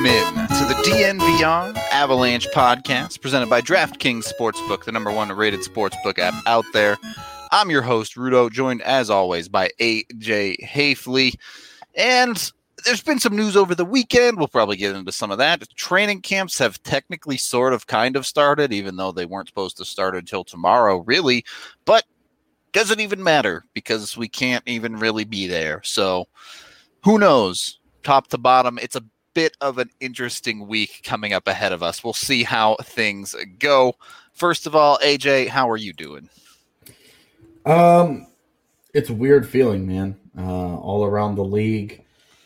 Welcome in to the DNVR Avalanche podcast presented by DraftKings Sportsbook, the number one rated sportsbook app out there. I'm your host, Rudo, joined as always by AJ Hafley. And there's been some news over the weekend. We'll probably get into some of that. Training camps have technically kind of started, even though they weren't supposed to start until tomorrow, really. But doesn't even matter because we can't even really be there. So who knows? Top to bottom, it's a bit of an interesting week coming up ahead of us. We'll see how things go. First of all, AJ, how are you doing? It's a weird feeling, man. All around the league,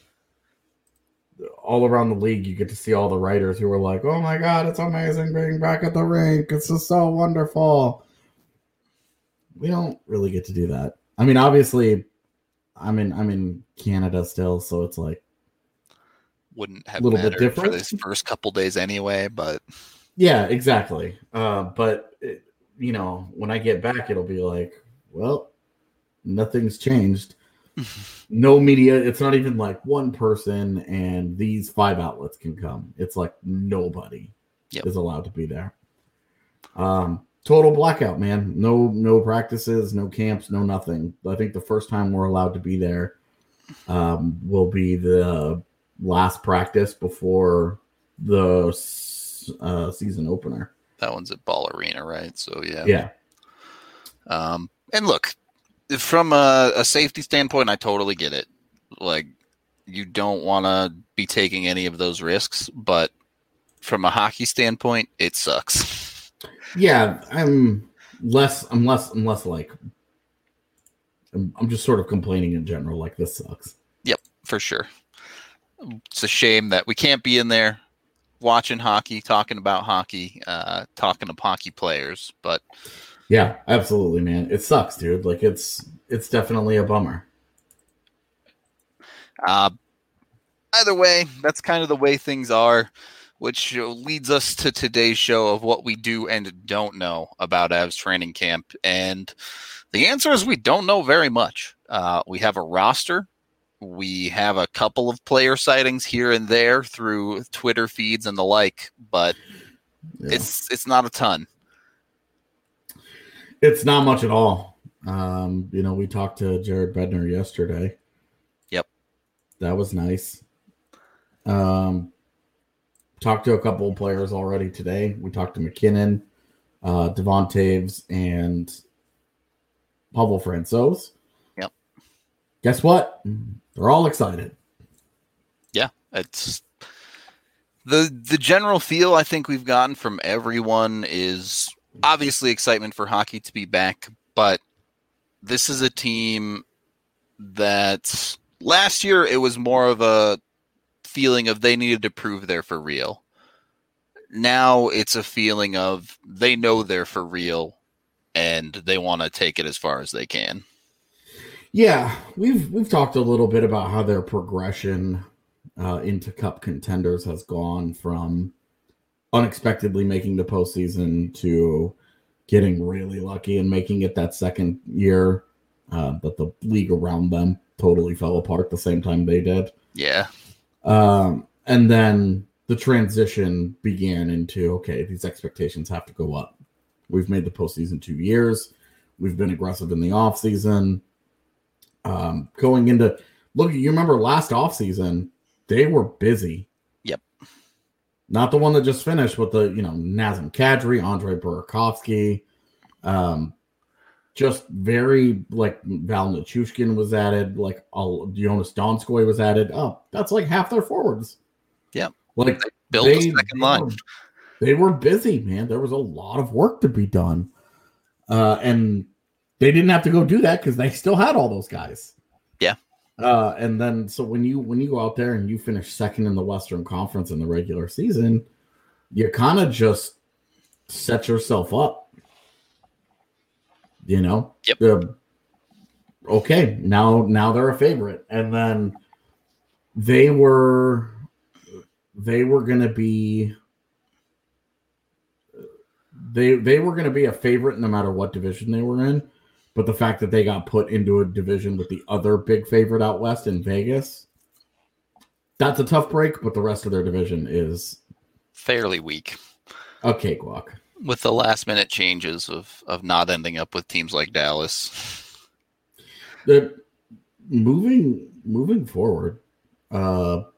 you get to see all the writers who are like, "Oh my God, it's amazing being back at the rink. It's just so wonderful." We don't really get to do that. I mean, obviously, I'm in Canada still, so it's like wouldn't have a little mattered bit different for this first couple days anyway, but yeah, exactly. But when I get back, it'll be like, well, nothing's changed. No media. It's not even like one person and these 5 outlets can come. It's like nobody is allowed to be there. Total blackout, man. No practices, no camps, no nothing. I think the first time we're allowed to be there will be the last practice before the season opener. That one's at Ball Arena, right? So yeah. And look, from a safety standpoint, I totally get it. Like, you don't want to be taking any of those risks, but from a hockey standpoint, it sucks. Yeah, I'm just sort of complaining in general, like this sucks. Yep, for sure. It's a shame that we can't be in there watching hockey, talking about hockey, talking to hockey players, but yeah, absolutely, man. It sucks, dude. Like it's definitely a bummer. Either way, that's kind of the way things are, which leads us to today's show of what we do and don't know about Avs training camp. And the answer is we don't know very much. We have a roster. We have a couple of player sightings here and there through Twitter feeds and the like, but it's not a ton. It's not much at all. We talked to Jared Bednar yesterday. Yep. That was nice. Talked to a couple of players already today. We talked to McKinnon, Devon Toews, and Pavel Francouz. Yep. Guess what? They're all excited. Yeah, it's the general feel I think we've gotten from everyone is obviously excitement for hockey to be back, but this is a team that last year it was more of a feeling of they needed to prove they're for real. Now it's a feeling of they know they're for real and they want to take it as far as they can. Yeah, we've talked a little bit about how their progression into cup contenders has gone from unexpectedly making the postseason to getting really lucky and making it that second year that the league around them totally fell apart the same time they did. Yeah. And then the transition began into, okay, these expectations have to go up. We've made the postseason 2 years. We've been aggressive in the offseason. Going into, look, you remember last offseason, they were busy. Yep. Not the one that just finished, but the, Nazem Kadri, Andre Burakovsky, just very, like, Val Nichushkin was added, like, Jonas Donskoy was added. Oh, that's like half their forwards. Yep. Like, they built a second line. They were busy, man. There was a lot of work to be done. And they didn't have to go do that because they still had all those guys. Yeah. And then, so when you go out there and you finish second in the Western Conference in the regular season, you kind of just set yourself up. Yep. Okay, now they're a favorite, and then they were going to be they were going to be a favorite no matter what division they were in. But the fact that they got put into a division with the other big favorite out west in Vegas, That's a tough break, but the rest of their division is fairly weak. A cakewalk. With the last minute changes of not ending up with teams like Dallas. Moving forward, do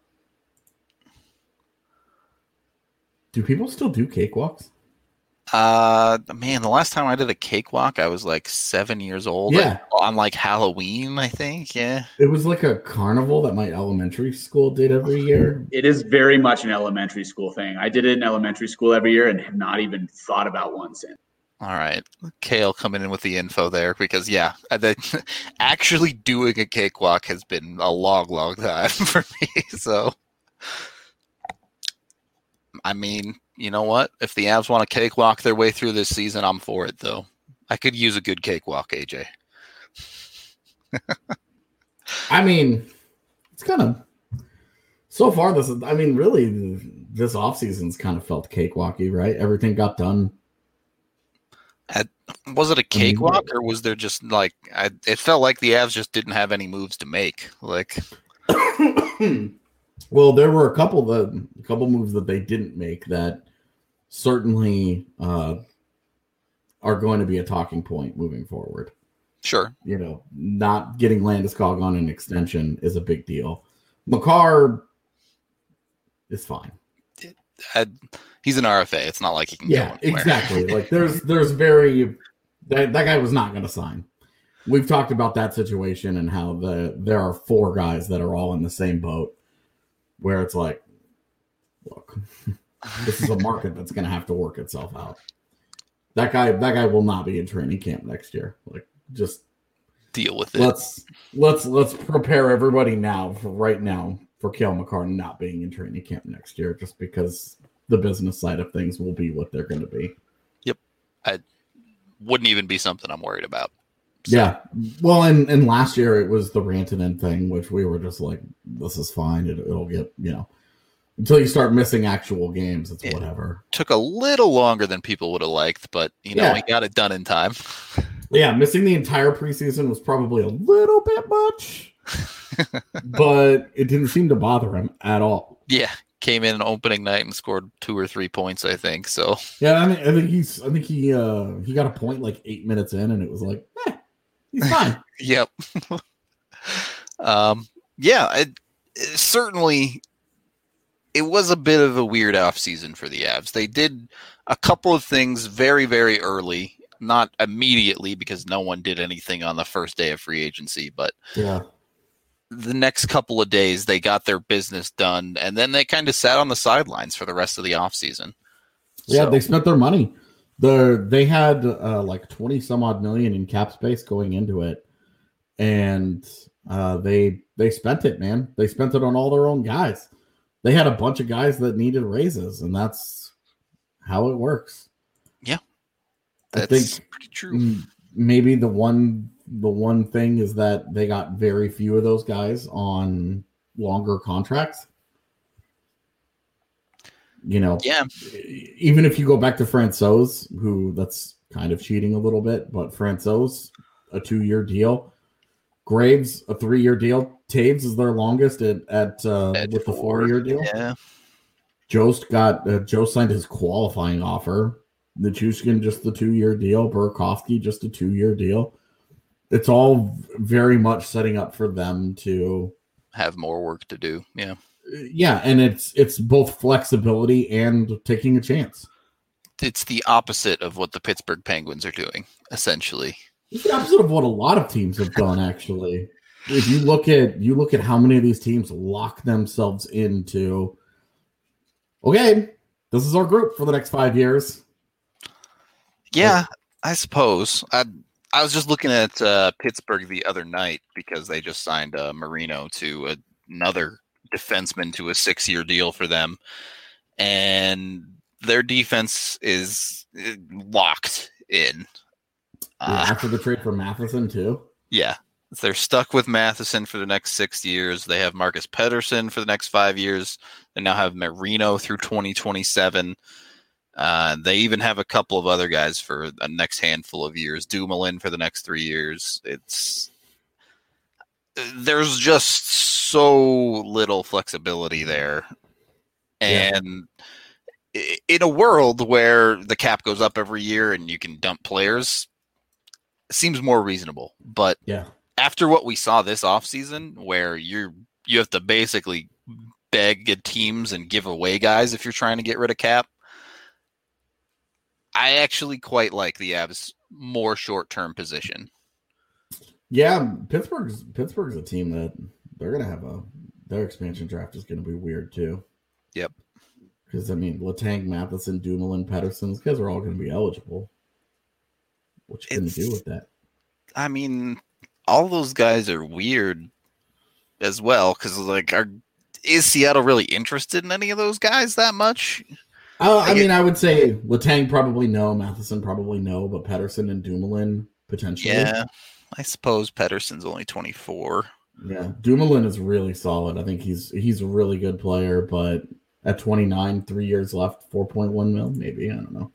people still do cakewalks? Man, the last time I did a cakewalk, I was like 7 years old. Yeah. On like Halloween, I think. Yeah. It was like a carnival that my elementary school did every year. It is very much an elementary school thing. I did it in elementary school every year and have not even thought about one since. All right. Kale coming in with the info there because, yeah, actually doing a cakewalk has been a long time for me. So, I mean, you know what? If the Avs want to cakewalk their way through this season, I'm for it, though. I could use a good cakewalk, AJ. I mean, it's kind of so far. Really, this offseason's kind of felt cakewalky, right? Everything got done. Was it a cakewalk, or was there just like it felt like the Avs just didn't have any moves to make? Like, well, there were a couple moves that they didn't make that certainly are going to be a talking point moving forward. Sure. You know, not getting Landeskog on an extension is a big deal. Makar is fine. He's an RFA. It's not like he can go anywhere. Exactly. Like there's very that guy was not going to sign. We've talked about that situation and how there are 4 guys that are all in the same boat where it's like, look, this is a market that's going to have to work itself out. That guy will not be in training camp next year. Like, just deal with it. Let's prepare everybody right now for Cale Makar not being in training camp next year, just because the business side of things will be what they're going to be. Yep. I wouldn't even be something I'm worried about. So. Yeah. Well, and last year it was the Rantanen thing, which we were just like, this is fine. It'll get, until you start missing actual games, it's whatever. Took a little longer than people would have liked, but, he got it done in time. Yeah, missing the entire preseason was probably a little bit much, but it didn't seem to bother him at all. Yeah, came in opening night and scored 2 or 3 points, I think. So yeah, I think he got a point like 8 minutes in, and it was like, he's fine. Yep. Certainly, it was a bit of a weird offseason for the Avs. They did a couple of things very, very early. Not immediately because no one did anything on the first day of free agency, but the next couple of days they got their business done, and then they kind of sat on the sidelines for the rest of the offseason. Yeah, they spent their money. They had like 20 some odd million in cap space going into it, and they spent it, man. They spent it on all their own guys. They had a bunch of guys that needed raises, and that's how it works. Yeah. I think pretty true. Maybe the one thing is that they got very few of those guys on longer contracts. Yeah. Even if you go back to Francouz, who that's kind of cheating a little bit, but Francouz, a 2-year deal. Graves, a 3-year deal. Taves is their longest with the 4-year deal. Yeah. Joe signed his qualifying offer. Nichushkin, just the 2-year deal. Burakovsky, just a 2-year deal. It's all very much setting up for them to have more work to do. Yeah. Yeah, and it's both flexibility and taking a chance. It's the opposite of what the Pittsburgh Penguins are doing, essentially. It's the opposite of what a lot of teams have done, actually. If you look at how many of these teams lock themselves into, okay, this is our group for the next 5 years. Yeah, I suppose. I was just looking at Pittsburgh the other night because they just signed Marino to another defenseman to a 6-year deal for them, and their defense is locked in. After the trade for Matheson too? Yeah. They're stuck with Matheson for the next 6 years. They have Marcus Pettersson for the next 5 years. They now have Marino through 2027. They even have a couple of other guys for the next handful of years. Dumoulin for the next 3 years. There's just so little flexibility there. And in a world where the cap goes up every year and you can dump players, it seems more reasonable. But after what we saw this offseason, where you have to basically beg teams and give away guys if you're trying to get rid of cap, I actually quite like the Avs' more short-term position. Yeah, Pittsburgh's a team that they're going to have their expansion draft is going to be weird too. Yep. Because, I mean, Letang, Matheson, Dumoulin, Pettersson, these guys are all going to be eligible. What you going to do with that? I mean, all those guys are weird as well because, like, is Seattle really interested in any of those guys that much? I mean, I would say Letang probably no, Matheson probably no, but Pettersson and Dumoulin potentially. Yeah, I suppose Pettersson's only 24. Yeah, Dumoulin is really solid. I think he's a really good player, but at 29, 3 years left, 4.1 mil, maybe. I don't know.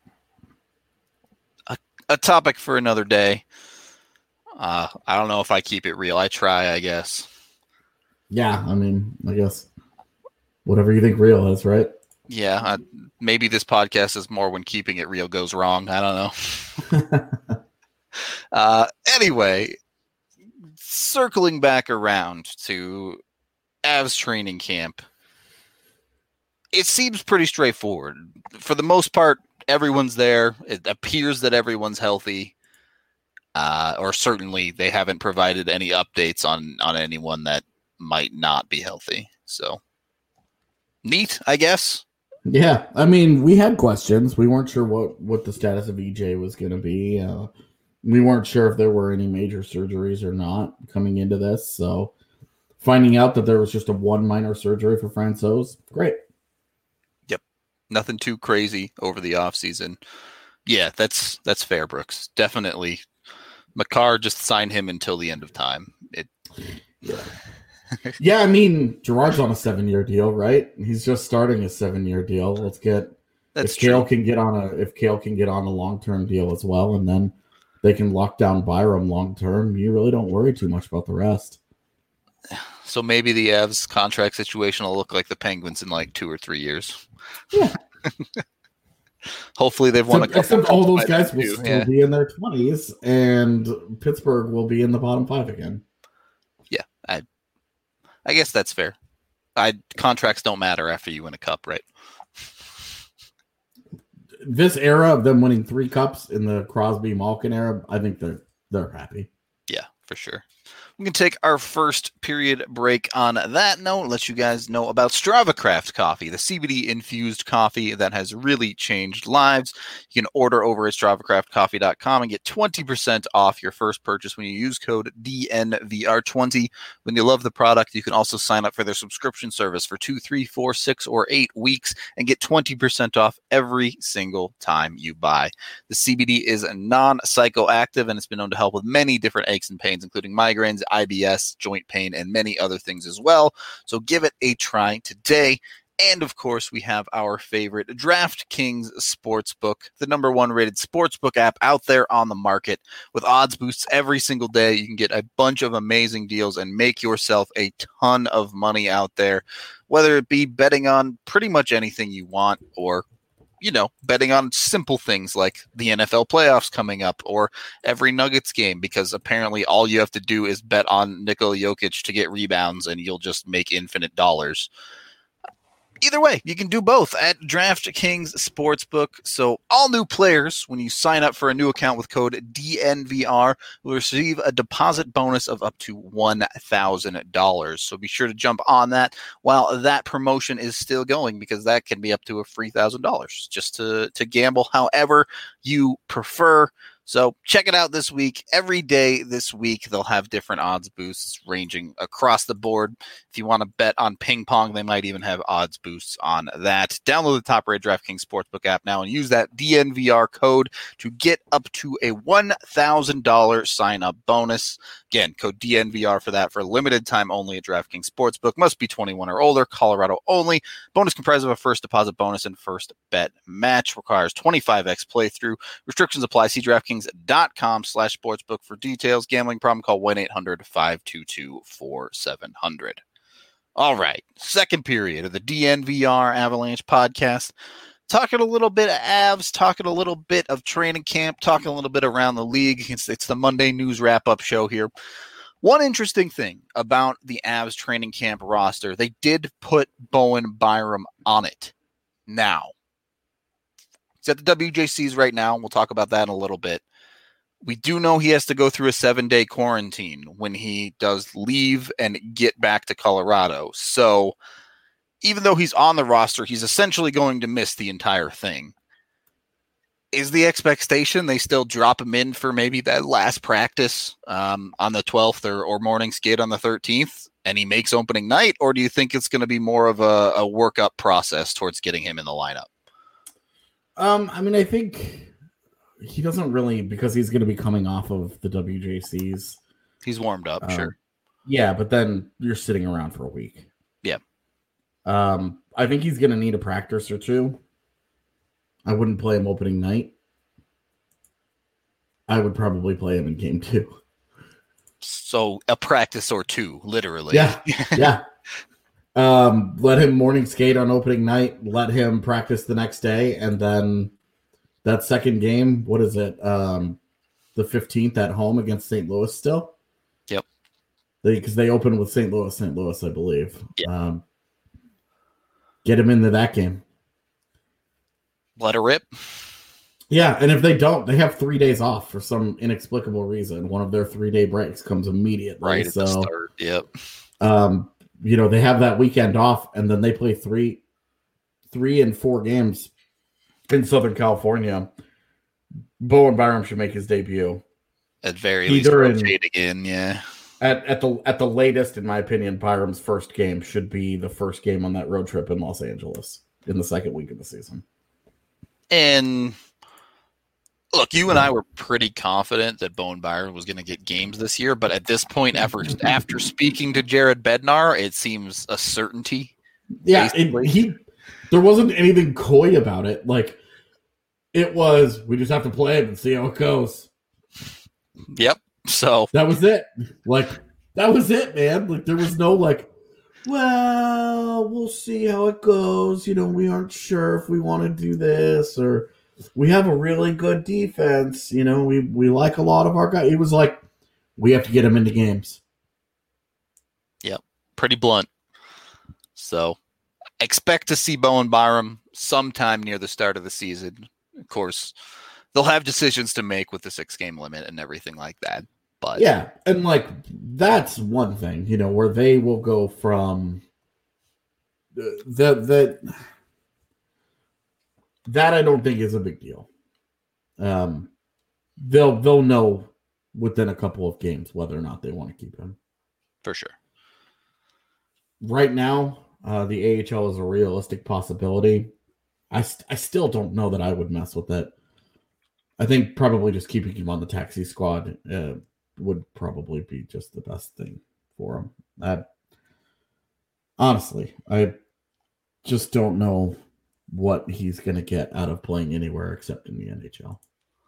A topic for another day. I don't know if I keep it real. I try, I guess. Yeah, I mean, I guess whatever you think real is, right? Yeah, maybe this podcast is more when keeping it real goes wrong. I don't know. Anyway, circling back around to Avs training camp, it seems pretty straightforward. For the most part, everyone's there. It appears that everyone's healthy, or certainly they haven't provided any updates on anyone that might not be healthy. So, neat, I guess. Yeah, I mean, we had questions. We weren't sure what the status of EJ was going to be. We weren't sure if there were any major surgeries or not coming into this. So, finding out that there was just one minor surgery for Francouz, great. Yep, nothing too crazy over the offseason. Yeah, that's fair, Brooks. Definitely. Makar, just sign him until the end of time. Yeah, I mean, Gerard's on a 7-year deal, right? He's just starting a 7-year deal. Let's get if Kale can get on a long-term deal as well, and then they can lock down Byram long-term. You really don't worry too much about the rest. So maybe the Avs contract situation will look like the Penguins in like 2 or 3 years. Yeah. Hopefully they've won a couple. Except all those guys will still be in their 20s, and Pittsburgh will be in the bottom 5 again. Yeah, I guess that's fair. Contracts don't matter after you win a cup, right? This era of them winning 3 cups in the Crosby-Malkin era, I think they're happy. Yeah, for sure. We can take our first period break on that note. Let you guys know about StravaCraft coffee, the CBD-infused coffee that has really changed lives. You can order over at StravaCraftCoffee.com and get 20% off your first purchase when you use code DNVR20. When you love the product, you can also sign up for their subscription service for 2, 3, 4, 6, or 8 weeks and get 20% off every single time you buy. The CBD is non-psychoactive, and it's been known to help with many different aches and pains, including migraines, IBS, joint pain, and many other things as well. So give it a try today. And of course, we have our favorite DraftKings Sportsbook, the #1 rated sportsbook app out there on the market with odds boosts every single day. You can get a bunch of amazing deals and make yourself a ton of money out there, whether it be betting on pretty much anything you want or betting on simple things like the NFL playoffs coming up or every Nuggets game, because apparently all you have to do is bet on Nikola Jokic to get rebounds and you'll just make infinite dollars. Either way, you can do both at DraftKings Sportsbook. So all new players, when you sign up for a new account with code DNVR, will receive a deposit bonus of up to $1,000. So be sure to jump on that while that promotion is still going, because that can be up to a free $1,000 just to gamble however you prefer. So check it out this week. Every day this week, they'll have different odds boosts ranging across the board. If you want to bet on ping pong, they might even have odds boosts on that. Download the top-rated DraftKings Sportsbook app now and use that DNVR code to get up to a $1,000 sign-up bonus. Again, code DNVR for that for limited time only at DraftKings Sportsbook. Must be 21 or older, Colorado only. Bonus comprised of a first deposit bonus and first bet match. Requires 25x playthrough. Restrictions apply. See DraftKings DraftKings.com/sportsbook for details. Gambling problem, call 1-800-522-4700. All right, second period of the DNVR Avalanche podcast. Talking a little bit of Avs, talking a little bit of training camp, talking a little bit around the league. It's the Monday news wrap-up show here. One interesting thing about the Avs training camp roster, they did put Bowen Byram on it. Now, he's at the WJCs right now. We'll talk about that in a little bit. We do know he has to go through a 7-day quarantine when he does leave and get back to Colorado. So even though he's on the roster, he's essentially going to miss the entire thing. Is the expectation they still drop him in for maybe that last practice on the 12th or morning skate on the 13th and he makes opening night? Or do you think it's going to be more of a workup process towards getting him in the lineup? I think he doesn't really, because he's going to be coming off of the WJCs. He's warmed up, sure. Yeah, but then you're sitting around for a week. Yeah. I think he's going to need a practice or two. I wouldn't play him opening night. I would probably play him in game 2. So a practice or two, literally. Yeah, yeah. Let him morning skate on opening night. Let him practice the next day. And then that second game, what is it? The 15th at home against St. Louis still? Yep. Because they open with St. Louis, I believe. Yep. Get him into that game. Let her rip. Yeah, and if they don't, they have 3 days off for some inexplicable reason. One of their 3-day breaks comes immediately. Right at the start, yep. They have that weekend off, and then they play 3 and 4 games in Southern California. Bowen Byram should make his debut. At very least, rotate again, yeah. At the latest, in my opinion, Byram's first game should be the first game on that road trip in Los Angeles in the second week of the season. And look, you and I were pretty confident that Bowen Byram was going to get games this year, but at this point, after speaking to Jared Bednar, it seems a certainty. Yeah, there wasn't anything coy about it. Like, it was, we just have to play it and see how it goes. Yep. So that was it. Like, that was it, man. Like, there was no well, we'll see how it goes. We aren't sure if we want to do this, or we have a really good defense. We like a lot of our guys. It was like, we have to get them into games. Yep. Pretty blunt. So expect to see Bowen Byram sometime near the start of the season. Of course, they'll have decisions to make with the 6-game limit and everything like that. But yeah, and that's one thing, where they will go from that I don't think is a big deal. They'll know within a couple of games whether or not they want to keep him. For sure. Right now, the AHL is a realistic possibility. I still don't know that I would mess with it. I think probably just keeping him on the taxi squad would probably be just the best thing for him. Honestly, I just don't know what he's going to get out of playing anywhere except in the NHL.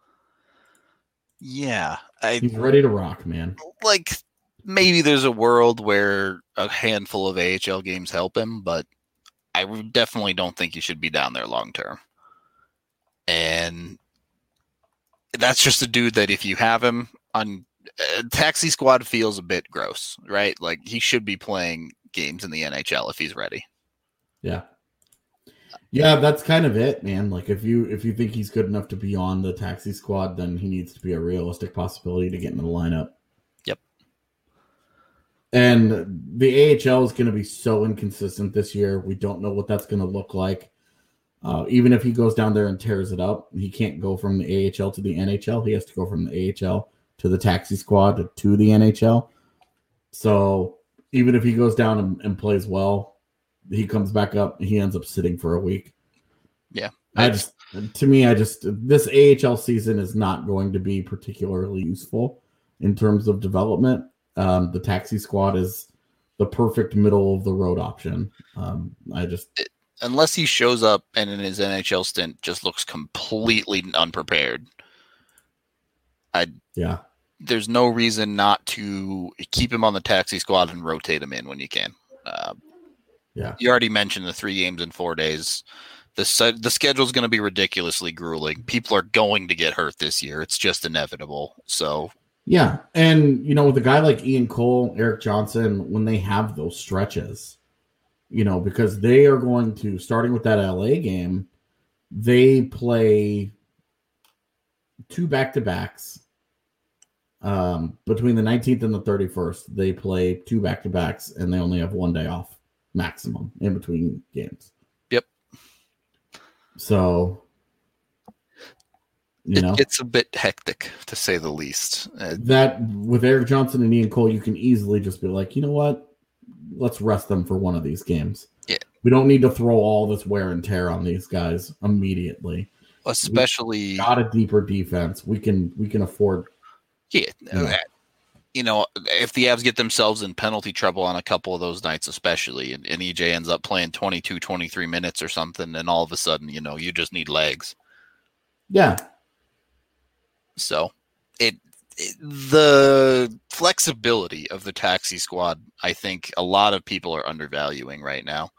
Yeah. He's ready to rock, man. Maybe there's a world where a handful of AHL games help him, but I definitely don't think he should be down there long term. And that's just a dude that if you have him on taxi squad feels a bit gross, right? Like, he should be playing games in the NHL if he's ready. Yeah. Yeah, that's kind of it, man. Like, if you think he's good enough to be on the taxi squad, then he needs to be a realistic possibility to get into the lineup. Yep. And the AHL is going to be so inconsistent this year. We don't know what that's going to look like. Even if he goes down there and tears it up, he can't go from the AHL to the NHL. He has to go from the AHL to the taxi squad to the NHL. So even if he goes down and plays well, he comes back up, he ends up sitting for a week. Yeah. This AHL season is not going to be particularly useful in terms of development. The taxi squad is the perfect middle of the road option. Unless he shows up and in his NHL stint just looks completely unprepared, Yeah. There's no reason not to keep him on the taxi squad and rotate him in when you can. Yeah. You already mentioned the 3 games in 4 days. The schedule is going to be ridiculously grueling. People are going to get hurt this year. It's just inevitable. So yeah, and with a guy like Ian Cole, Eric Johnson, when they have those stretches, because they are going to, starting with that LA game, they play 2 back-to-backs. Between the 19th and the 31st, they play 2 back-to-backs, and they only have 1 day off maximum in between games. Yep. So, it's a bit hectic, to say the least. That with Eric Johnson and Ian Cole, you can easily just be like, you know what? Let's rest them for one of these games. Yeah. We don't need to throw all this wear and tear on these guys immediately. Especially, we've got a deeper defense. We can afford. Yeah. If the Avs get themselves in penalty trouble on a couple of those nights, especially, and EJ ends up playing 22, 23 minutes or something, and all of a sudden, you just need legs. Yeah. So the flexibility of the taxi squad, I think a lot of people are undervaluing right now.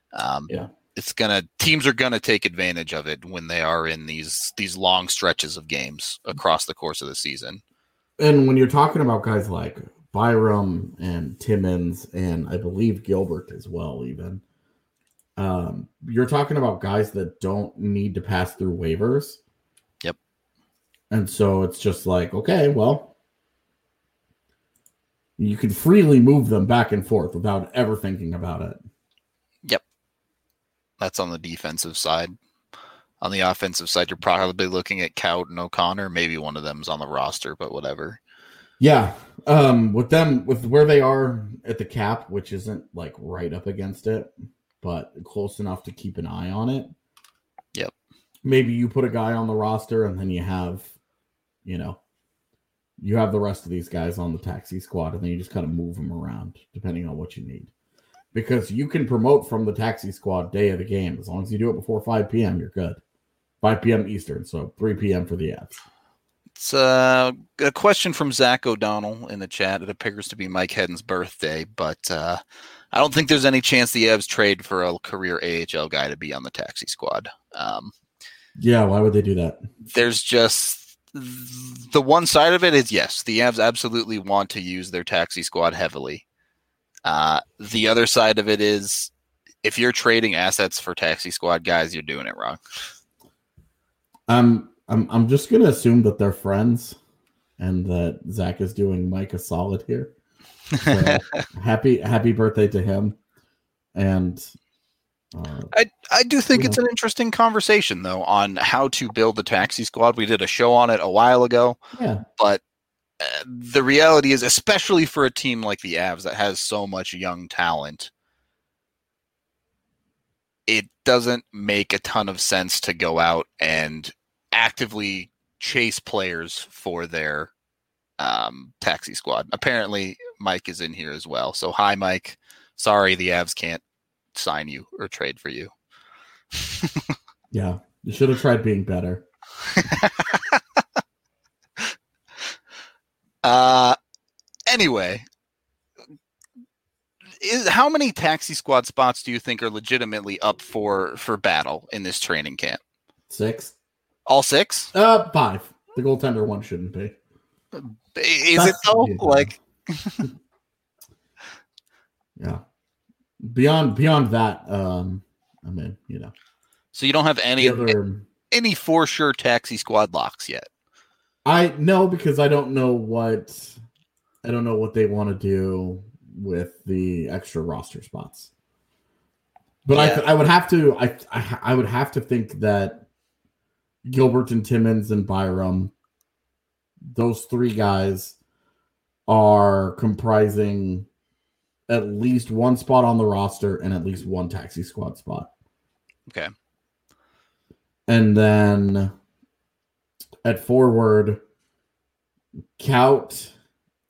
Teams are gonna take advantage of it when they are in these long stretches of games across the course of the season. And when you're talking about guys like Byram and Timmins and I believe Gilbert as well, even you're talking about guys that don't need to pass through waivers. Yep. And so it's just like, okay, well, you can freely move them back and forth without ever thinking about it. Yep. That's on the defensive side. On the offensive side, you're probably looking at Kaut and O'Connor. Maybe one of them's on the roster, but whatever. Yeah. With where they are at the cap, which isn't like right up against it, but close enough to keep an eye on it. Yep. Maybe you put a guy on the roster and then you have the rest of these guys on the taxi squad, and then you just kind of move them around depending on what you need. Because you can promote from the taxi squad day of the game. As long as you do it before 5 p.m., you're good. 5 p.m. Eastern, so 3 p.m. for the Avs. It's a question from Zach O'Donnell in the chat. It appears to be Mike Hedden's birthday, but I don't think there's any chance the Avs trade for a career AHL guy to be on the taxi squad. Yeah, why would they do that? There's just the one side of it is, yes, the Avs absolutely want to use their taxi squad heavily. The other side of it is, if you're trading assets for taxi squad guys, you're doing it wrong. I'm just gonna assume that they're friends, and that Zach is doing Mike a solid here. So happy birthday to him, and I do think it's an interesting conversation though on how to build the taxi squad. We did a show on it a while ago, but the reality is, especially for a team like the Avs that has so much young talent, it doesn't make a ton of sense to go out and actively chase players for their taxi squad. Apparently, Mike is in here as well. So, hi, Mike. Sorry, the Avs can't sign you or trade for you. Yeah, you should have tried being better. Anyway, how many taxi squad spots do you think are legitimately up for battle in this training camp? 6. All 6? 5. The goaltender one shouldn't be. Is it though? Like, yeah. Beyond that, I mean, So you don't have any for sure taxi squad locks yet? No, because I don't know what they want to do with the extra roster spots. But I would have to think that Gilbert and Timmins and Byram, those 3 guys, are comprising at least 1 spot on the roster and at least 1 taxi squad spot. Okay. And then at forward, Kaut,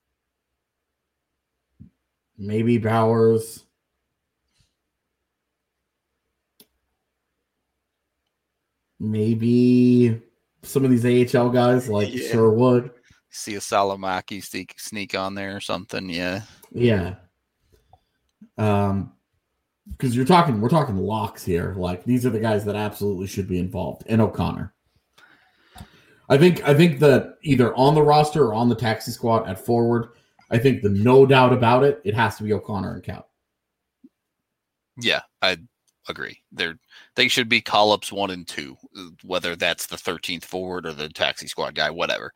maybe Bowers, maybe some of these AHL guys like Sherwood. See a Salomaki sneak on there or something. Yeah. Yeah. Because we're talking locks here. Like, these are the guys that absolutely should be involved. And O'Connor. I think that either on the roster or on the taxi squad at forward, I think the no doubt about it, it has to be O'Connor and Count. Yeah, I agree. They should be call-ups 1 and 2, whether that's the 13th forward or the taxi squad guy, whatever.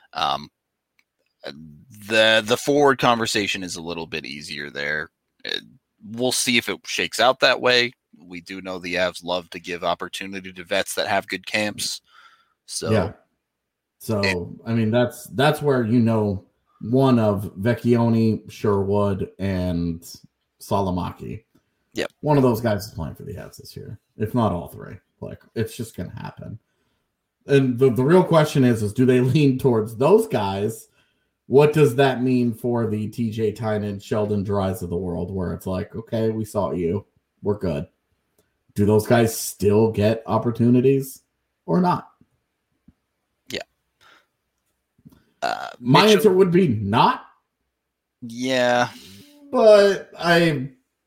The forward conversation is a little bit easier there. We'll see if it shakes out that way. We do know the Avs love to give opportunity to vets that have good camps. So yeah. So I mean, that's where one of Vecchione, Sherwood, and Salomaki. Yep. One of those guys is playing for the Avs this year, if not all three. Like, it's just going to happen. And the real question is do they lean towards those guys? What does that mean for the TJ Tynan, Sheldon Dries of the world, where it's like, okay, we saw you, we're good. Do those guys still get opportunities or not? My answer would be not. Yeah. But I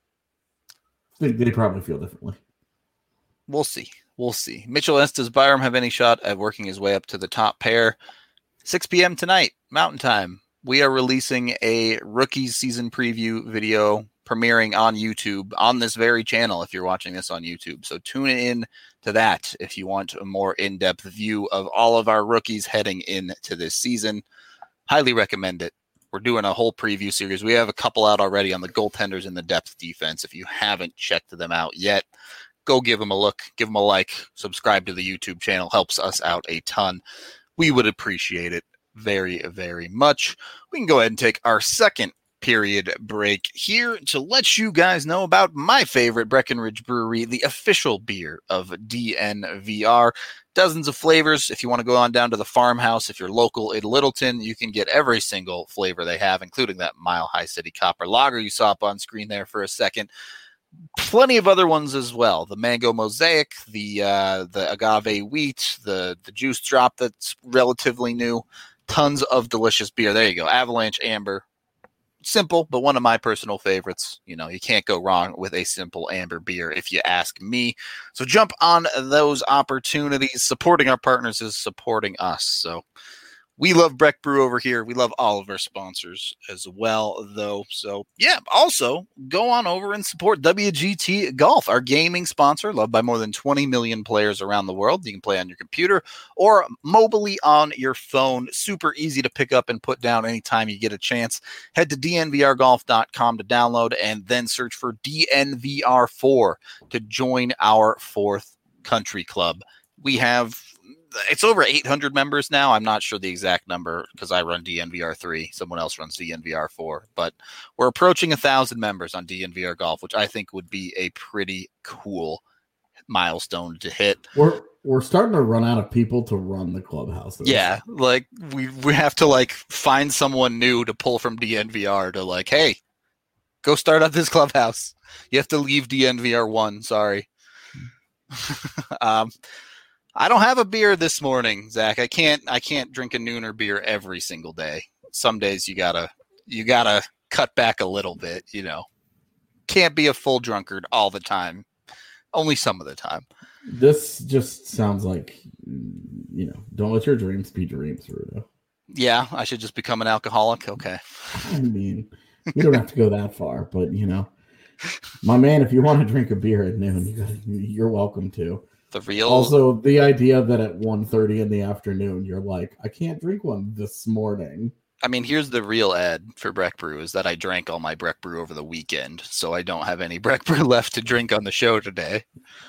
think they probably feel differently. We'll see. Mitchell Ennis, does Byram have any shot at working his way up to the top pair? 6 p.m. tonight, Mountain Time. We are releasing a rookies season preview video premiering on YouTube on this very channel if you're watching this on YouTube. So tune in to that if you want a more in-depth view of all of our rookies heading into this season. Highly recommend it. We're doing a whole preview series. We have a couple out already on the goaltenders and the depth defense. If you haven't checked them out yet, go give them a look, give them a like, subscribe to the YouTube channel. Helps us out a ton. We would appreciate it very, very much. We can go ahead and take our second period break here to let you guys know about my favorite Breckenridge Brewery, the official beer of DNVR. Dozens of flavors. If you want to go on down to the farmhouse, if you're local in Littleton, you can get every single flavor they have, including that Mile High City Copper Lager you saw up on screen there for a second. Plenty of other ones as well. The Mango Mosaic, the Agave Wheat, the Juice Drop that's relatively new. Tons of delicious beer. There you go. Avalanche Amber. Simple, but one of my personal favorites. You can't go wrong with a simple amber beer if you ask me. So jump on those opportunities. Supporting our partners is supporting us. So we love Breck Brew over here. We love all of our sponsors as well, though. So, yeah, also go on over and support WGT Golf, our gaming sponsor, loved by more than 20 million players around the world. You can play on your computer or mobilely on your phone. Super easy to pick up and put down anytime you get a chance. Head to dnvrgolf.com to download and then search for DNVR4 to join our 4th country club. It's over 800 members now. I'm not sure the exact number because I run DNVR3. Someone else runs DNVR4. But we're approaching 1,000 members on DNVR Golf, which I think would be a pretty cool milestone to hit. We're starting to run out of people to run the clubhouse. Yeah, like we have to find someone new to pull from DNVR to hey, go start up this clubhouse. You have to leave DNVR1. Sorry. I don't have a beer this morning, Zach. I can't drink a nooner beer every single day. Some days you gotta cut back a little bit, Can't be a full drunkard all the time. Only some of the time. This just sounds like, don't let your dreams be dreams, Rudo. Yeah, I should just become an alcoholic. Okay. I mean, you don't have to go that far, but my man, if you want to drink a beer at noon, you're welcome to. Also, the idea that at 1:30 in the afternoon, you're like, I can't drink one this morning. I mean, here's the real ad for Breck Brew is that I drank all my Breck Brew over the weekend, so I don't have any Breck Brew left to drink on the show today.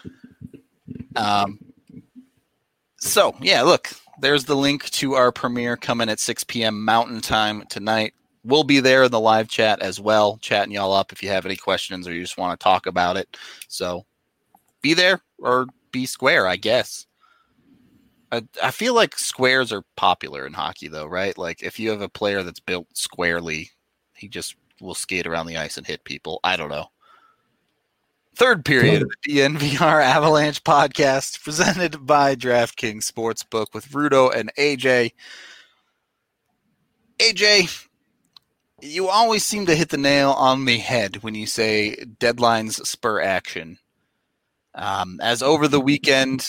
So, yeah, look, there's the link to our premiere coming at 6 p.m. Mountain Time tonight. We'll be there in the live chat as well, chatting y'all up if you have any questions or you just want to talk about it. So be there or be square, I guess. I feel like squares are popular in hockey, though, right? Like, if you have a player that's built squarely, he just will skate around the ice and hit people. I don't know. Third period of the DNVR Avalanche podcast presented by DraftKings Sportsbook with Rudo and AJ. AJ, you always seem to hit the nail on the head when you say deadlines spur action. As over the weekend,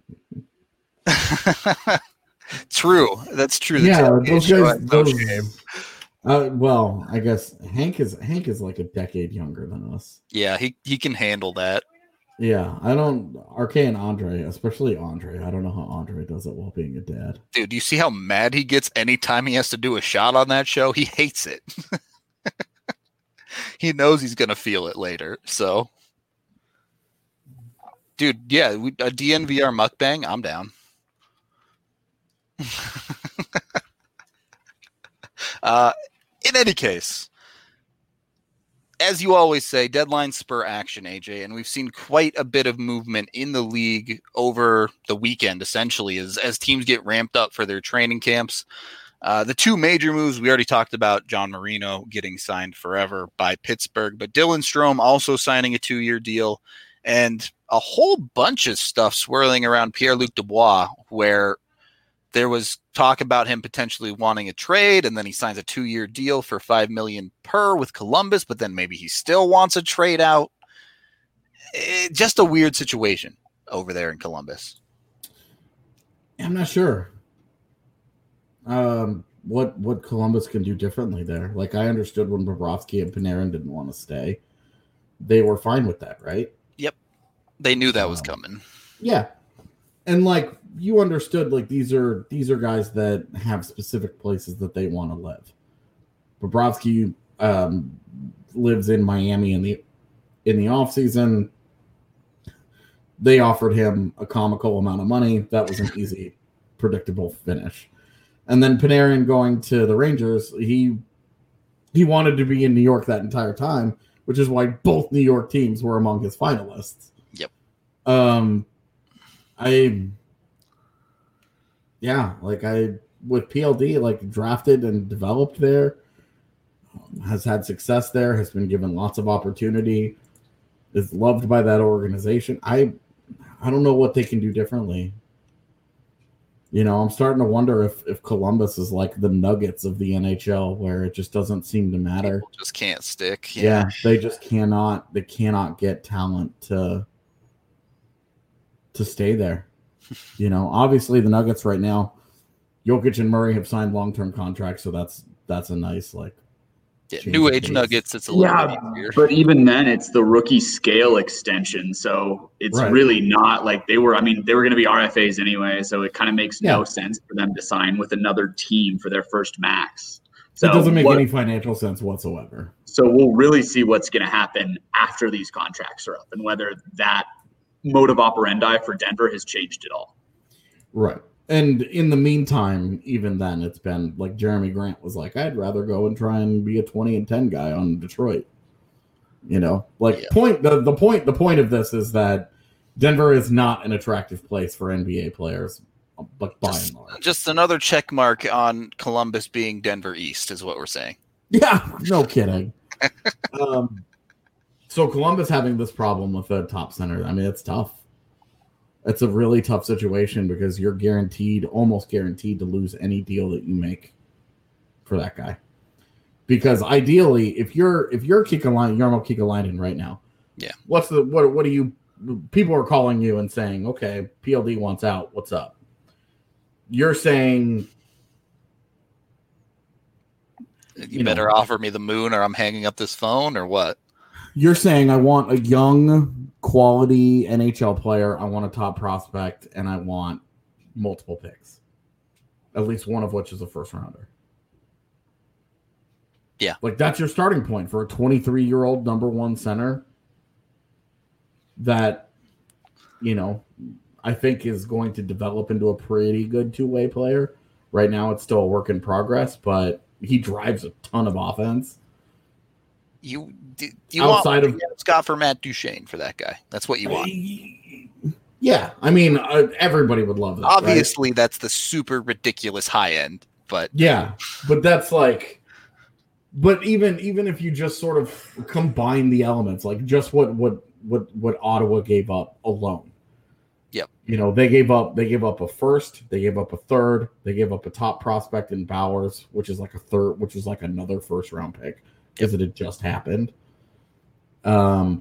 true. That's true. Yeah, those guys. Well, I guess Hank is like a decade younger than us. Yeah, he can handle that. Yeah, I don't. RK and Andre, especially Andre. I don't know how Andre does it while being a dad. Dude, do you see how mad he gets anytime he has to do a shot on that show? He hates it. He knows he's gonna feel it later. So, dude, yeah, a DNVR mukbang. I'm down. In any case, as you always say, deadline spur action, AJ, and we've seen quite a bit of movement in the league over the weekend, essentially, as teams get ramped up for their training camps. The two major moves, we already talked about John Marino getting signed forever by Pittsburgh, but Dylan Strome also signing a 2-year deal, and a whole bunch of stuff swirling around Pierre-Luc Dubois, where there was talk about him potentially wanting a trade, and then he signs a 2-year deal for $5 million per with Columbus, but then maybe he still wants a trade out. Just a weird situation over there in Columbus. I'm not sure what Columbus can do differently there. Like, I understood when Bobrovsky and Panarin didn't want to stay. They were fine with that, right? Yep. They knew that was coming. Yeah. And like, you understood, like, these are guys that have specific places that they want to live. Bobrovsky lives in Miami in the off season. They offered him a comical amount of money. That was an easy, predictable finish. And then Panarin going to the Rangers, he wanted to be in New York that entire time, which is why both New York teams were among his finalists. Yep. With PLD, like, drafted and developed there, has had success there, has been given lots of opportunity, is loved by that organization. I don't know what they can do differently. You know, I'm starting to wonder if Columbus is like the Nuggets of the NHL, where it just doesn't seem to matter. People just can't stick. Yeah, they just cannot get talent to stay there. You know, obviously the Nuggets right now, Jokic and Murray have signed long-term contracts, so that's a nice, like, new age Nuggets. It's a little bit easier. But even then, it's the rookie scale extension, so it's really not like they were going to be RFAs anyway, so it kind of makes no sense for them to sign with another team for their first max. So it doesn't make any financial sense whatsoever. So we'll really see what's going to happen after these contracts are up, and whether that mode of operandi for Denver has changed at all. Right. And in the meantime, even then, it's been like Jeremy Grant was like, I'd rather go and try and be a 20-10 guy on Detroit. You know, like, the point of this is that Denver is not an attractive place for NBA players, but by and large. Just another check mark on Columbus being Denver East is what we're saying. Yeah, no kidding. So Columbus having this problem with a top center, I mean, it's tough. It's a really tough situation because you're almost guaranteed to lose any deal that you make for that guy. Because ideally, if you're Jarmo Kekalainen right now, what do you? People are calling you and saying, okay, PLD wants out. What's up? You're saying, you better offer me the moon, or I'm hanging up this phone, or what? You're saying I want a young, quality NHL player, I want a top prospect, and I want multiple picks. At least one of which is a first rounder. Yeah. Like, that's your starting point for a 23-year-old number one center that, you know, I think is going to develop into a pretty good two-way player. Right now it's still a work in progress, but he drives a ton of offense. You outside want Scott for Matt Duchene for that guy. That's what you want. Yeah, I mean, everybody would love that. Obviously, right? That's the super ridiculous high end, but yeah, but that's like, but even if you just sort of combine the elements, like just what Ottawa gave up alone. Yep. They gave up a first, they gave up a third, they gave up a top prospect in Bowers, which is like a third, which was like another first round pick because it had just happened. And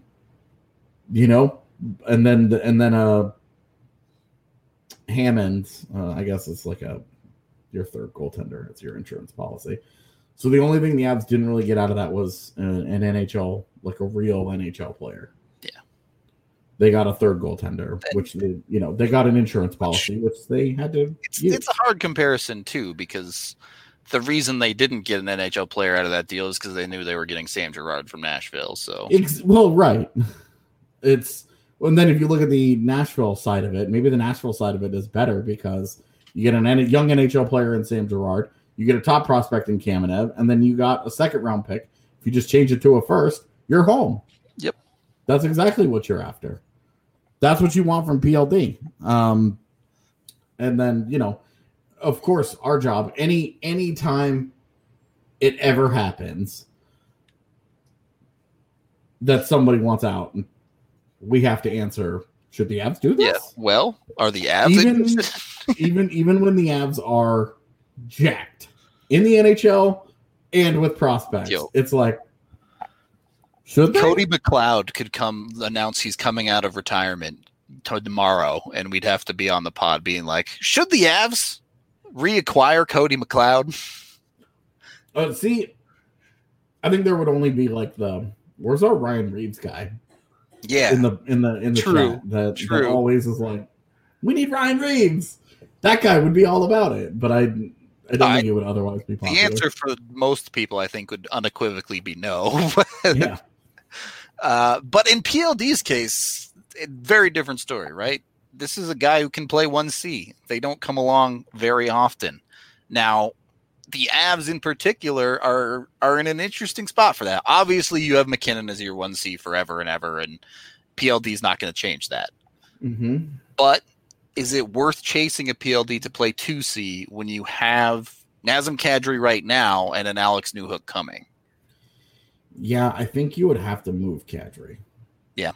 then Hammond, I guess it's like your third goaltender. It's your insurance policy. So the only thing the Avs didn't really get out of that was an NHL, like a real NHL player. Yeah. They got a third goaltender, which they got an insurance policy, which they had to use. It's a hard comparison too, because the reason they didn't get an NHL player out of that deal is because they knew they were getting Sam Girard from Nashville. So right. And then if you look at the Nashville side of it, maybe the Nashville side of it is better because you get a young NHL player in Sam Girard, you get a top prospect in Kamenev, and then you got a second round pick. If you just change it to a first, you're home. Yep. That's exactly what you're after. That's what you want from PLD. And then, of course, our job, any time it ever happens that somebody wants out, we have to answer, should the Avs do this? Yeah. Well, are the Avs even when the Avs are jacked in the NHL and with prospects, it's like, should they? Cody McLeod could announce he's coming out of retirement tomorrow, and we'd have to be on the pod being like, should the Avs reacquire Cody McLeod? See, I think there would only be like where's our Ryan Reeves guy? Yeah, in the True. chat that always is like, we need Ryan Reeves. That guy would be all about it, but I don't think it would otherwise be popular. The answer for most people, I think, would unequivocally be no. Yeah. But in PLD's case, very different story, right? This is a guy who can play 1C. They don't come along very often. Now, the Avs in particular are in an interesting spot for that. Obviously, you have McKinnon as your 1C forever and ever, and PLD is not going to change that. Mm-hmm. But is it worth chasing a PLD to play 2C when you have Nazem Kadri right now and an Alex Newhook coming? Yeah, I think you would have to move Kadri. Yeah.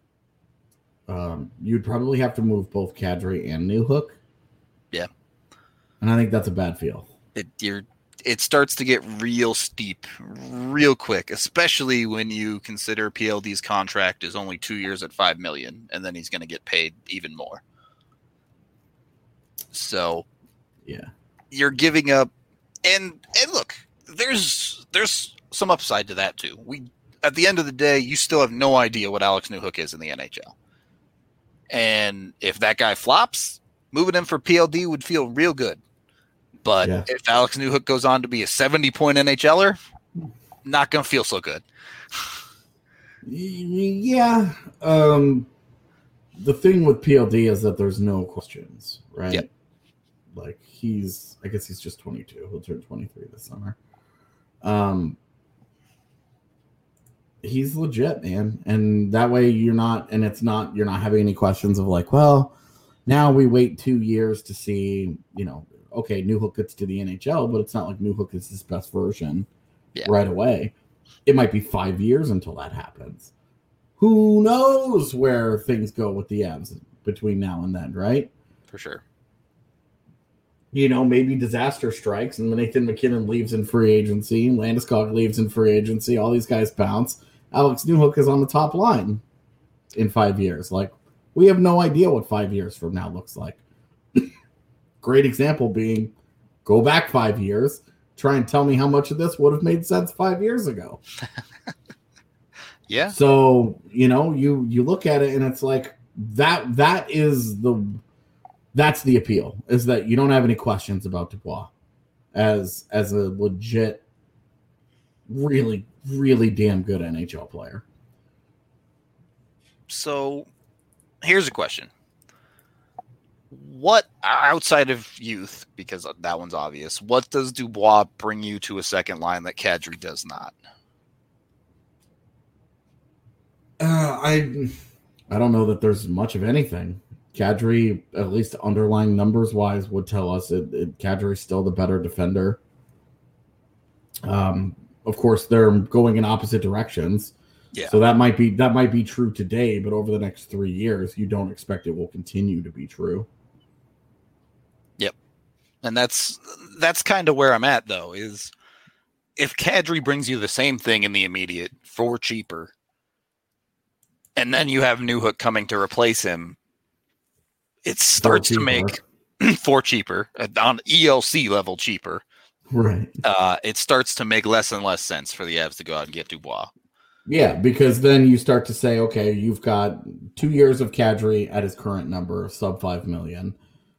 You'd probably have to move both Kadri and Newhook. Yeah. And I think that's a bad feel. It starts to get real steep real quick, especially when you consider PLD's contract is only 2 years at $5 million, and then he's going to get paid even more. So, yeah, you're giving up, and look, there's some upside to that too. At the end of the day, you still have no idea what Alex Newhook is in the NHL, and if that guy flops, moving him for PLD would feel real good. But if Alex Newhook goes on to be a 70-point NHLer, not going to feel so good. Yeah. The thing with PLD is that there's no questions, right? Yep. Like I guess he's just 22. He'll turn 23 this summer. He's legit, man. And that way you're not having any questions of like, well, now we wait 2 years to see, okay, Newhook gets to the NHL, but it's not like Newhook is his best version right away. It might be 5 years until that happens. Who knows where things go with the Avs between now and then, right? For sure. Maybe disaster strikes and Nathan McKinnon leaves in free agency, Landeskog leaves in free agency, all these guys bounce. Alex Newhook is on the top line in 5 years. Like, we have no idea what 5 years from now looks like. Great example being, go back 5 years, try and tell me how much of this would have made sense 5 years ago. Yeah. So, you look at it and it's like that's the appeal, is that you don't have any questions about Dubois as a legit, really, really damn good NHL player. So here's a question. What, outside of youth, because that one's obvious, what does Dubois bring you to a second line that Kadri does not? I don't know that there's much of anything. Kadri, at least underlying numbers wise, would tell us Kadri's still the better defender. Of course, they're going in opposite directions. Yeah. So that might be true today, but over the next 3 years, you don't expect it will continue to be true. Yep. And that's kind of where I'm at, though, is if Kadri brings you the same thing in the immediate for cheaper, and then you have Newhook coming to replace him, it starts to make for cheaper on ELC level cheaper. Right. It starts to make less and less sense for the Avs to go out and get Dubois. Yeah, because then you start to say, okay, you've got 2 years of Kadri at his current number, sub $5 million.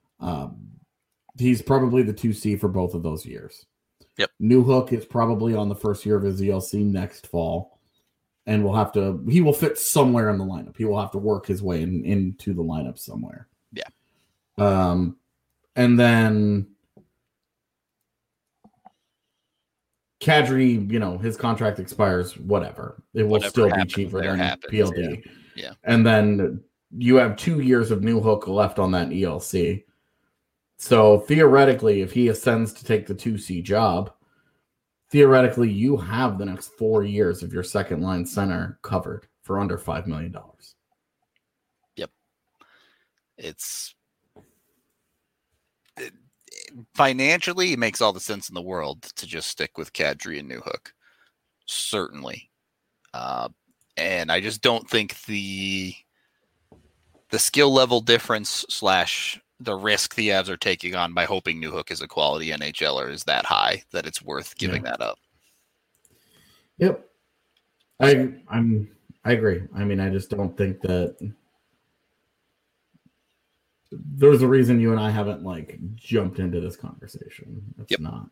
He's probably the 2C for both of those years. Yep. Newhook is probably on the first year of his ELC next fall, and he will fit somewhere in the lineup. He will have to work his way into the lineup somewhere. Yeah. And then Kadri, his contract expires, whatever. It will still be cheaper than PLD. Yeah. And then you have 2 years of Newhook left on that ELC. So theoretically, if he ascends to take the 2C job, theoretically you have the next 4 years of your second line center covered for under $5 million. Yep. Financially, it makes all the sense in the world to just stick with Kadri and Newhook. Certainly. And I just don't think the skill level difference / the risk the Avs are taking on by hoping Newhook is a quality NHLer is that high that it's worth giving that up. Yep. I agree. I mean, I just don't think that there's a reason you and I haven't jumped into this conversation. It's not,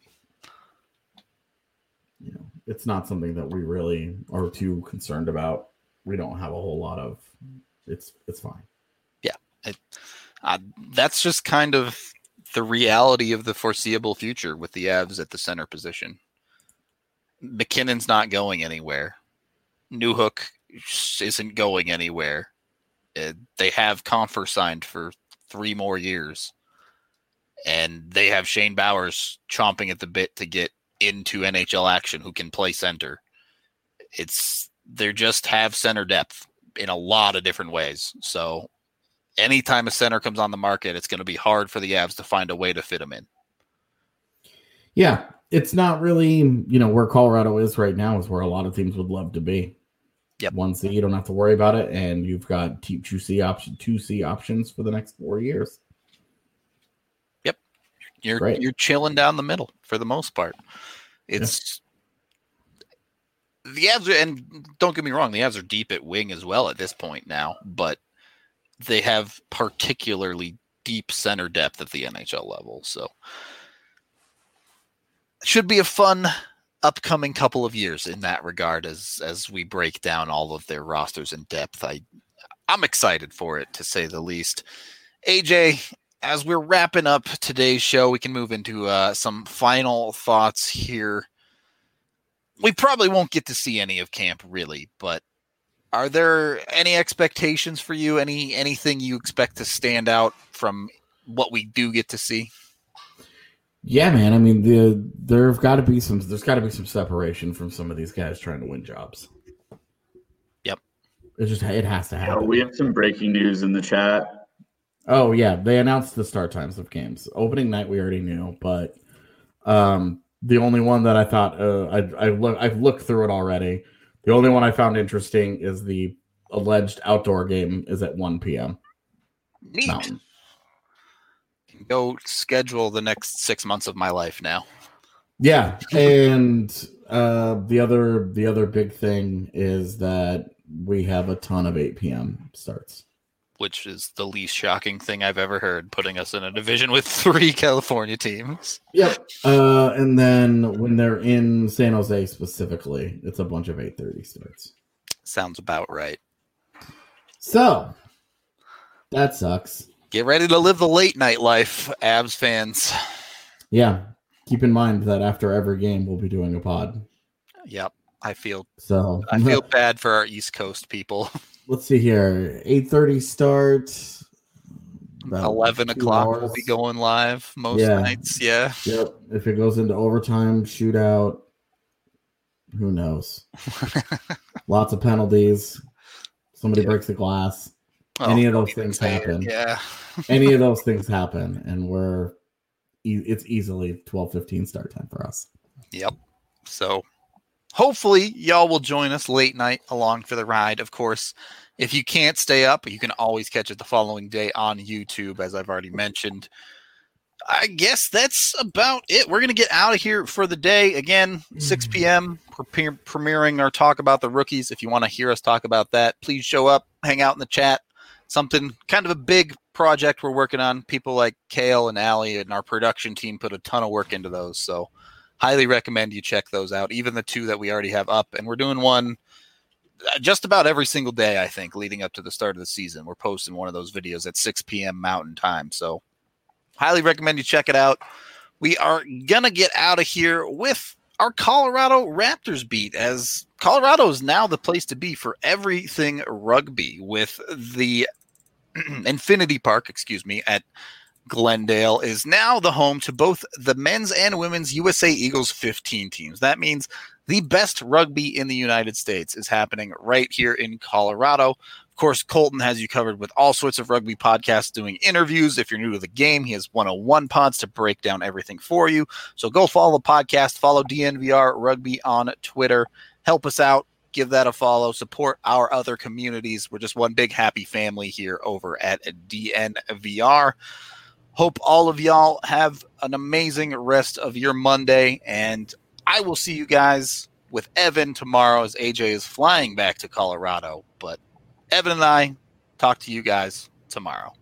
it's not something that we really are too concerned about. We don't have a whole lot of, it's fine. Yeah. That's just kind of the reality of the foreseeable future with the Avs at the center position. McKinnon's not going anywhere. Newhook isn't going anywhere. They have Compher signed for 3 more years, and they have Shane Bowers chomping at the bit to get into NHL action who can play center. They just have center depth in a lot of different ways. So anytime a center comes on the market, it's going to be hard for the Avs to find a way to fit him in. Yeah, it's not really, where Colorado is right now is where a lot of teams would love to be. Yep. 1C, you don't have to worry about it, and you've got 2C options for the next 4 years. Yep. You're chilling down the middle for the most part. It's the Avs are, and don't get me wrong, the Avs are deep at wing as well at this point now, but they have particularly deep center depth at the NHL level. So it should be a fun upcoming couple of years in that regard as we break down all of their rosters in depth. I'm excited for it, to say the least. AJ, as we're wrapping up today's show, we can move into some final thoughts here. We probably won't get to see any of camp, really, but are there any expectations for you? Anything you expect to stand out from what we do get to see? Yeah, man. I mean, there's got to be some separation from some of these guys trying to win jobs. Yep. It has to happen. We have some breaking news in the chat. Oh yeah, they announced the start times of games. Opening night we already knew, but the only one that I thought I've looked through it already. The only one I found interesting is the alleged outdoor game is at 1 p.m. Neat. Mountain. Go schedule the next 6 months of my life now. Yeah, and the other big thing is that we have a ton of 8 p.m. starts, which is the least shocking thing I've ever heard, putting us in a division with 3 California teams. Yep. And then when they're in San Jose specifically, it's a bunch of 8:30 starts. Sounds about right. So that sucks. Get ready to live the late night life, Avs fans. Yeah. Keep in mind that after every game, we'll be doing a pod. Yep. I feel bad for our East Coast people. Let's see here. 8:30 start. 11 o'clock we'll be going live most nights. Yeah. Yep. If it goes into overtime, shootout, Who knows? Lots of penalties. Somebody breaks the glass. Any of those things happen. Yeah. Any of those things happen, and it's easily 12:15 start time for us. Yep. So hopefully y'all will join us late night along for the ride. Of course, if you can't stay up, you can always catch it the following day on YouTube, as I've already mentioned. I guess that's about it. We're going to get out of here for the day. Again, 6 p.m., premiering our Talk About the Rookies. If you want to hear us talk about that, please show up, hang out in the chat. Something kind of a big project we're working on. People like Kale and Allie and our production team put a ton of work into those. So highly recommend you check those out, even the 2 that we already have up. And we're doing one just about every single day, I think, leading up to the start of the season. We're posting one of those videos at 6 p.m. Mountain Time. So highly recommend you check it out. We are going to get out of here with our Colorado Raptors beat, as Colorado is now the place to be for everything rugby, with the Infinity Park, at Glendale is now the home to both the men's and women's USA Eagles 15 teams. That means the best rugby in the United States is happening right here in Colorado. Of course, Colton has you covered with all sorts of rugby podcasts, doing interviews. If you're new to the game, he has 101 pods to break down everything for you. So go follow the podcast, follow DNVR Rugby on Twitter. Help us out. Give that a follow. Support our other communities. We're just one big happy family here over at DNVR. Hope all of y'all have an amazing rest of your Monday, and I will see you guys with Evan tomorrow as AJ is flying back to Colorado. But Evan and I talk to you guys tomorrow.